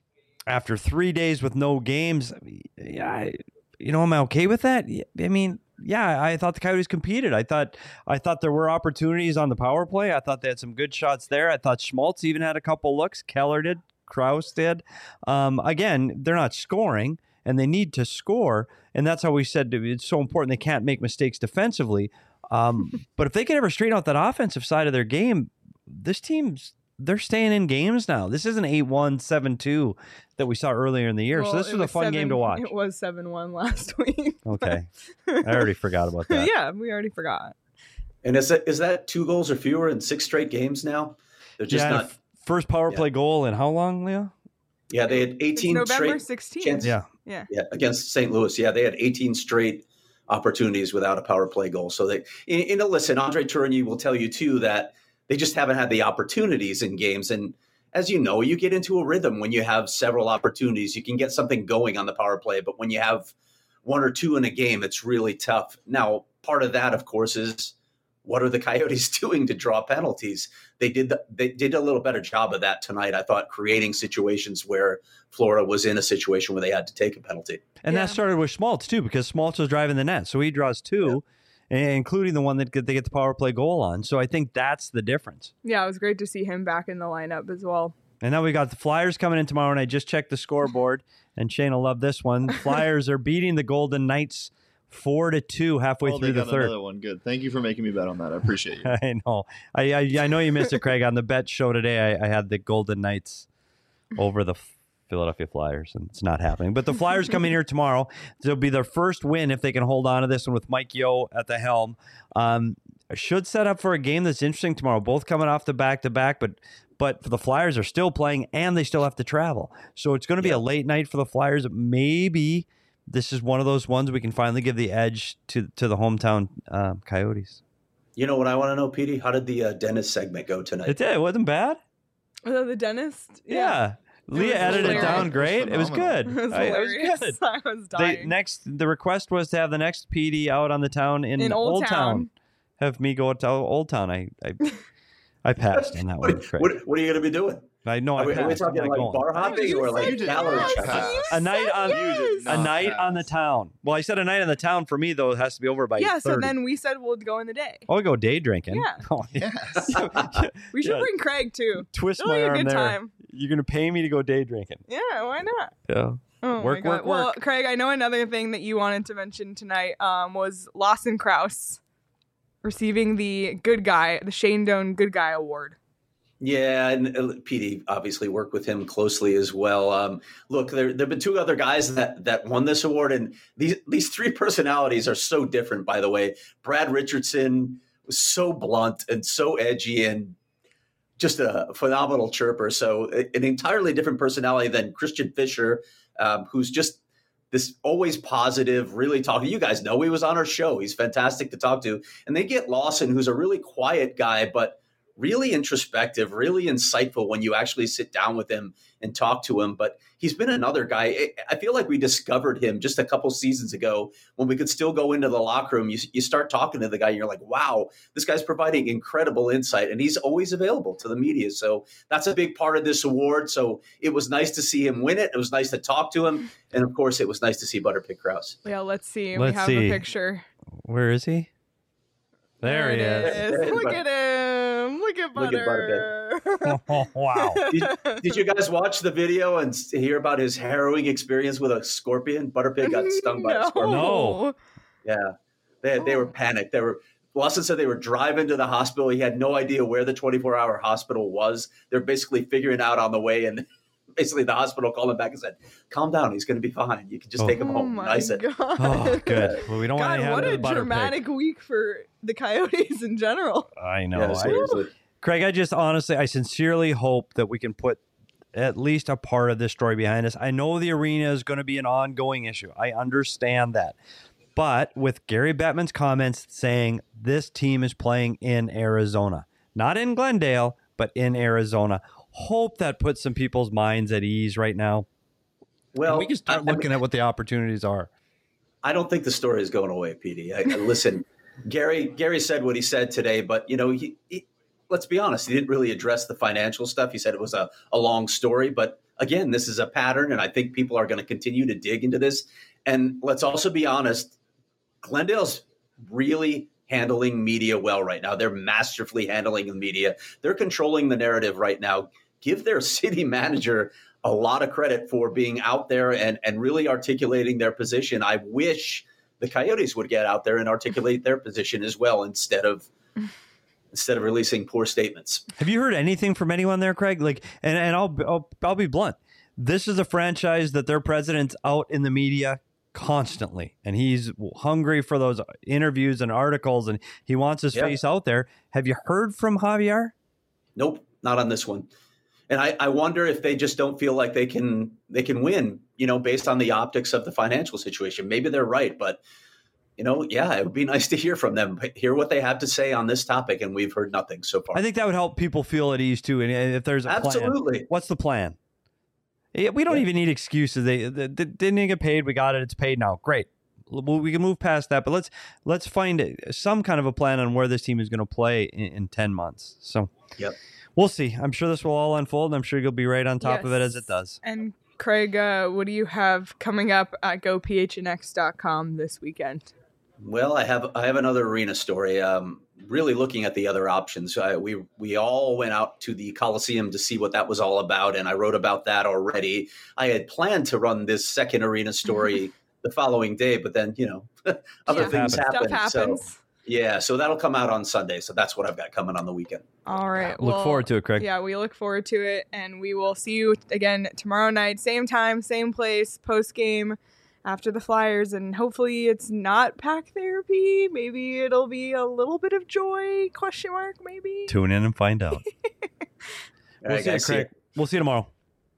after three days with no games, yeah, I, you know, am I okay with that? I mean, yeah, I thought the Coyotes competed. I thought I thought there were opportunities on the power play. I thought they had some good shots there. I thought Schmaltz even had a couple looks. Keller did. Krause did. Um, again, they're not scoring, and they need to score, and that's how we said it's so important they can't make mistakes defensively. Um, but if they can ever straighten out that offensive side of their game, this team's they're staying in games now. This isn't eight one, seven two that we saw earlier in the year.
Well,
so this was, was a fun
seven,
game to watch.
It was seven one last week.
Okay. I already forgot about that.
Yeah, we already forgot.
And is that, is that two goals or fewer in six straight games now? They're just
yeah,
not.
First power play yeah. goal in how long, Leah?
Yeah, they had eighteen
it's November
straight
sixteenth.
chances.
Yeah.
yeah.
Yeah, against Saint Louis. Yeah, they had eighteen straight opportunities without a power play goal. So they, you know, listen, Andre Tourigny will tell you too that they just haven't had the opportunities in games. And as you know, you get into a rhythm when you have several opportunities. You can get something going on the power play, but when you have one or two in a game, it's really tough. Now, part of that, of course, is what are the Coyotes doing to draw penalties? They did the, they did a little better job of that tonight, I thought, creating situations where Florida was in a situation where they had to take a penalty.
And yeah. that started with Schmaltz, too, because Schmaltz was driving the net. So he draws two, yeah. including the one that they get the power play goal on. So I think that's the difference.
Yeah, it was great to see him back in the lineup as well.
And now we got the Flyers coming in tomorrow, and I just checked the scoreboard, and Shane will love this one. Flyers are beating the Golden Knights Four to two halfway
oh,
through
they
the
got
third.
Another one, good. Thank you for making me bet on that. I appreciate you.
I know. I, I I know you missed it, Craig. On the bet show today, I, I had the Golden Knights over the Philadelphia Flyers, and it's not happening. But the Flyers coming here tomorrow. It'll be their first win if they can hold on to this one with Mike Yeo at the helm. Um, should set up for a game that's interesting tomorrow. Both coming off the back to back, but but the Flyers are still playing and they still have to travel. So it's going to be yeah. a late night for the Flyers. Maybe this is one of those ones we can finally give the edge to to the hometown uh, Coyotes.
You know what I want to know, Petey? How did the uh, dentist segment go tonight?
It did. It wasn't bad.
Oh, the dentist?
Yeah. yeah. Leah edited
hilarious.
it down great. It was, it was good.
It was,
I, it was good.
I was dying.
They, next, the request was to have the next P D out on the town in,
in Old, Old Town. Town.
Have me go to Old Town. I I, I passed on that
what,
one. Craig.
What, what are you going to be doing?
I know. I
are, we, are we talking like going. bar hopping or like gallery
yes,
a night on
yes.
a night
pass.
on the town? Well, I said a night on the town for me though. It has to be over by
yeah.
thirty.
So then we said we'll go in the day.
Oh, we go day drinking.
Yeah.
Oh,
yes.
We should
yeah.
bring Craig too.
Twist
It'll
my
be a
arm
good
there.
Time.
You're gonna pay me to go day drinking.
Yeah. Why not?
Yeah.
Oh
work,
my
work,
God. Well,
work.
Craig, I know another thing that you wanted to mention tonight um, was Lawson Krause receiving the Good Guy, the Shane Doan Good Guy Award.
Yeah, and uh, P D obviously worked with him closely as well. Um, look, there there have been two other guys that that won this award, and these these three personalities are so different. By the way, Brad Richardson was so blunt and so edgy and just a phenomenal chirper. So an entirely different personality than Christian Fischer, um, who's just this always positive, really talking. You guys know he was on our show. He's fantastic to talk to. And they get Lawson, who's a really quiet guy, but really introspective, really insightful when you actually sit down with him and talk to him. But he's been another guy. I feel like we discovered him just a couple seasons ago when we could still go into the locker room. You, you start talking to the guy and you're like, wow, this guy's providing incredible insight, and he's always available to the media. So that's a big part of this award. So it was nice to see him win it. It was nice to talk to him. And of course, it was nice to see Butterpick Krause.
Yeah, let's see.
Let's
we have
see.
a picture.
Where is he? There,
there
he
is.
is.
is. Look at him. Look at Butter.
Look at
oh, wow.
Did, did you guys watch the video and hear about his harrowing experience with a scorpion? Butterpig got stung by
no.
a scorpion.
No.
Yeah. They, they were panicked. They were Lawson said they were driving to the hospital. He had no idea where the twenty-four hour hospital was. They're basically figuring out on the way, and basically the hospital called him back and said, calm down, he's going to be fine. You can just
oh.
take him
Oh
home.
my
Nice it.
God.
Oh, good. Well, we don't
God,
want to have
what
the
a
butter
dramatic
pig.
week for the Coyotes in general.
I know.
Yeah,
I,
seriously.
Craig, I just honestly, I sincerely hope that we can put at least a part of this story behind us. I know the arena is going to be an ongoing issue. I understand that. But with Gary Bettman's comments saying this team is playing in Arizona, not in Glendale, but in Arizona, hope that puts some people's minds at ease right now.
Well,
and we can start
I,
looking
I mean,
at what the opportunities are.
I don't think the story is going away, P D. I, I, listen, Gary Gary said what he said today, but, you know, he, he, let's be honest, he didn't really address the financial stuff. He said it was a, a long story. But, again, this is a pattern, and I think people are going to continue to dig into this. And let's also be honest, Glendale's really handling media well right now. They're masterfully handling the media. They're controlling the narrative right now. Give their city manager a lot of credit for being out there and, and really articulating their position. I wish the Coyotes would get out there and articulate their position as well instead of instead of releasing poor statements.
Have you heard anything from anyone there, Craig? Like, and, and I'll, I'll I'll be blunt. This is a franchise that their president's out in the media constantly, and he's hungry for those interviews and articles, and he wants his yep. face out there. Have you heard from Javier?
Nope, not on this one. And I, I wonder if they just don't feel like they can they can win, you know, based on the optics of the financial situation. Maybe they're right, but, you know, yeah, it would be nice to hear from them, hear what they have to say on this topic, and we've heard nothing so far.
I think that would help people feel at ease too. And if there's a
Absolutely.
plan, what's the plan? We don't yeah. even need excuses. They, they, they didn't get paid. We got it. It's paid now. Great. We can move past that, but let's let's find some kind of a plan on where this team is going to play in, in ten months. So,
yep.
We'll see. I'm sure this will all unfold, and I'm sure you'll be right on top
yes.
of it as it does.
And Craig, uh, what do you have coming up at go p h n x dot com this weekend?
Well, I have I have another arena story. Um, really looking at the other options. I, we we all went out to the Coliseum to see what that was all about, and I wrote about that already. I had planned to run this second arena story the following day, but then, you know, other
yeah.
things
happen.
happened.
So
yeah, so that'll come out on Sunday. So that's what I've got coming on the weekend.
All right.
Look
well,
forward to it, Craig.
Yeah, we look forward to it, and we will see you again tomorrow night, same time, same place, post game after the Flyers, and hopefully it's not pack therapy. Maybe it'll be a little bit of joy, question mark, maybe.
Tune in and find out. We'll
right,
see you, Craig. We'll see you tomorrow.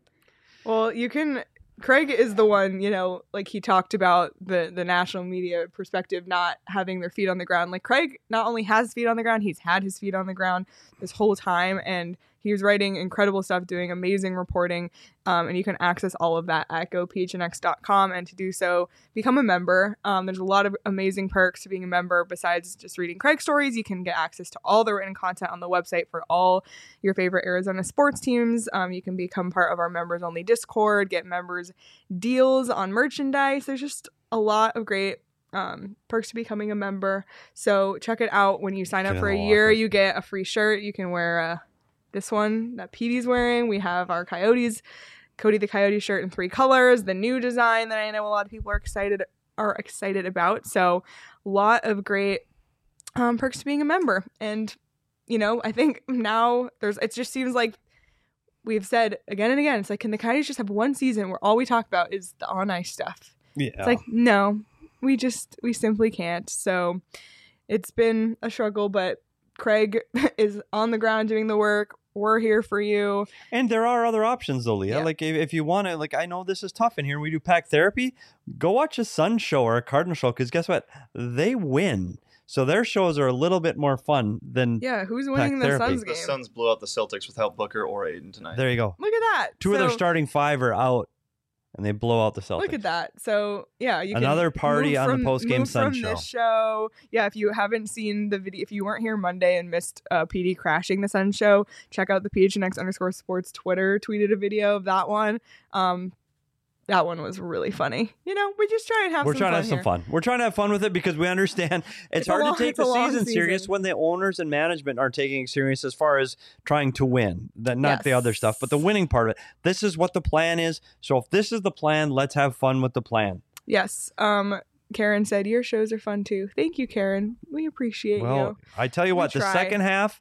Well, you can... Craig is the one, you know, like he talked about the, the national media perspective not having their feet on the ground. Like Craig not only has feet on the ground, he's had his feet on the ground this whole time, and he was writing incredible stuff, doing amazing reporting, um, and you can access all of that at go p h n x dot com, and to do so, become a member. Um, there's a lot of amazing perks to being a member. Besides just reading Craig's stories, you can get access to all the written content on the website for all your favorite Arizona sports teams. Um, you can become part of our members-only Discord, get members deals on merchandise. There's just a lot of great um, perks to becoming a member. So check it out. When you sign up for a year, you get a free shirt. You can wear a this one that P D's wearing. We have our Coyotes, Cody the Coyote shirt in three colors, the new design that I know a lot of people are excited are excited about. So a lot of great um, perks to being a member. And, you know, I think now there's, it just seems like we've said again and again, it's like, can the Coyotes just have one season where all we talk about is the on ice stuff?
Yeah.
It's like, no, we just, we simply can't. So it's been a struggle, but Craig is on the ground doing the work. We're here for you.
And there are other options though, Leah. Yeah. Like if, if you want to, like, I know this is tough in here. We do pack therapy. Go watch a Sun show or a Cardinal show, because guess what? They win. So their shows are a little bit more fun than
yeah. Who's winning the Suns game?
The Suns blew out the Celtics without Booker or Aiden tonight.
There you go.
Look at that.
Two so, of their starting five are out, and they blow out the Celtics.
Look at that. So yeah, you
another
can
party on
from,
the post game Sun
from
show.
This show. Yeah, if you haven't seen the video, if you weren't here Monday and missed uh, P D crashing the Sun show, check out the P H N X underscore sports Twitter. Tweeted a video of that one. Um, that one was really funny. You know, we just try and have.
We're
some
trying
fun
to have
here.
some fun. We're trying to have fun with it because we understand it's,
it's
hard
long,
to take the season,
season
serious when the owners and management are taking it serious as far as trying to win. That not
yes.
the other stuff, but the winning part of it. This is what the plan is. So if this is the plan, let's have fun with the plan.
Yes. Um. Karen said your shows are fun too. Thank you, Karen. We appreciate
well,
you.
I tell you
we
what,
try.
the second half,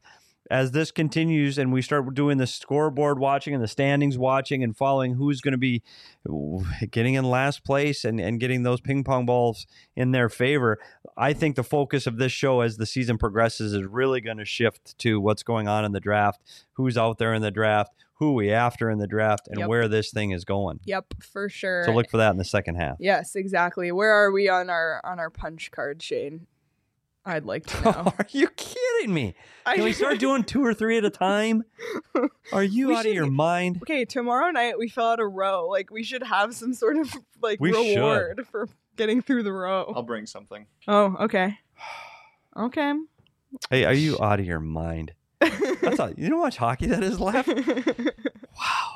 as this continues and we start doing the scoreboard watching and the standings watching and following who's going to be getting in last place and, and getting those ping pong balls in their favor, I think the focus of this show as the season progresses is really going to shift to what's going on in the draft, who's out there in the draft, who we after in the draft, and
Yep.
where this thing is going.
Yep, for sure.
So look for that in the second half.
Yes, exactly. Where are we on our on our punch card, Shane? I'd like to know.
Are you kidding me?
I-
Can we start doing two or three at a time? Are you
We
out
should-
of your mind?
Okay, tomorrow night we fill out a row. Like we should have some sort of like
We should.
reward for getting through the row.
I'll bring something.
Oh, okay. Okay.
Hey, are you out of your mind? That's all, you know how much hockey that is left? Wow.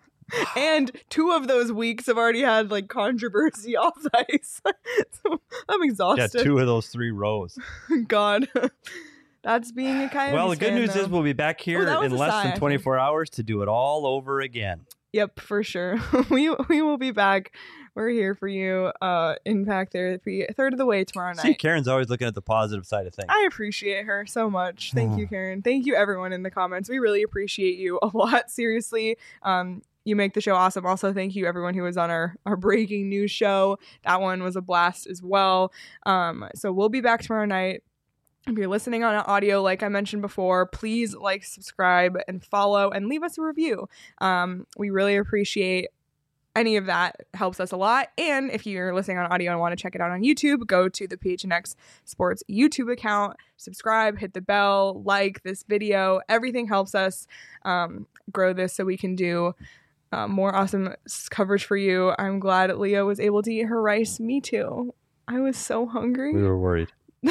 And two of those weeks have already had like controversy off the ice. So I'm
Yeah,
exhausted.
two of those three rows.
God. That's being a Coyotes
Well, the good
fan,
news
though.
is we'll be back here
Oh, that was
in
a
less
sigh, I
than
think.
twenty-four hours to do it all over again.
Yep, for sure. we we will be back. We're here for you. Uh, Impact Therapy, a third of the way tomorrow
See,
night.
Karen's always looking at the positive side of things.
I appreciate her so much. Thank you, Karen. Thank you, everyone in the comments. We really appreciate you a lot. Seriously. Um, you make the show awesome. Also, thank you, everyone who was on our, our breaking news show. That one was a blast as well. Um, so we'll be back tomorrow night. If you're listening on audio, like I mentioned before, please like, subscribe, and follow, and leave us a review. Um, we really appreciate any of that. Helps us a lot. And if you're listening on audio and want to check it out on YouTube, go to the P H N X Sports YouTube account, subscribe, hit the bell, like this video. Everything helps us um, grow this so we can do uh, more awesome s- coverage for you. I'm glad Leah was able to eat her rice. Me too. I was so hungry.
We were worried.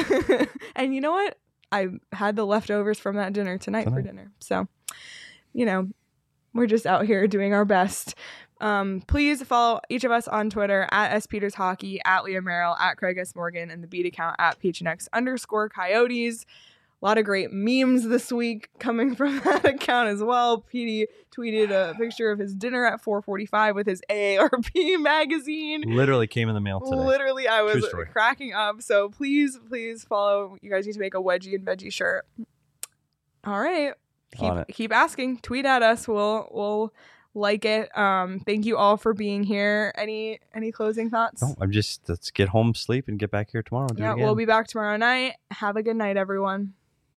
And you know what? I had the leftovers from that dinner tonight, for
Tonight.
dinner. So, you know, we're just out here doing our best. Um, please follow each of us on Twitter at S Peters Hockey, at Leah Merrill, at Craig S. Morgan, and the beat account at P H N X underscore Coyotes. A lot of great memes this week coming from that account as well. Petey tweeted a picture of his dinner at four forty-five with his A A R P magazine.
Literally came in the mail today.
Literally, I was
True story.
cracking up. So please, please follow. You guys need to make a wedgie and veggie shirt. All right. Keep
On it.
keep asking. Tweet at us. We'll we'll like it. Um, thank you all for being here. Any any closing thoughts?
No, I'm just, let's get home, sleep, and get back here tomorrow. and Do it
Yeah,
again.
we'll be back tomorrow night. Have a good night, everyone.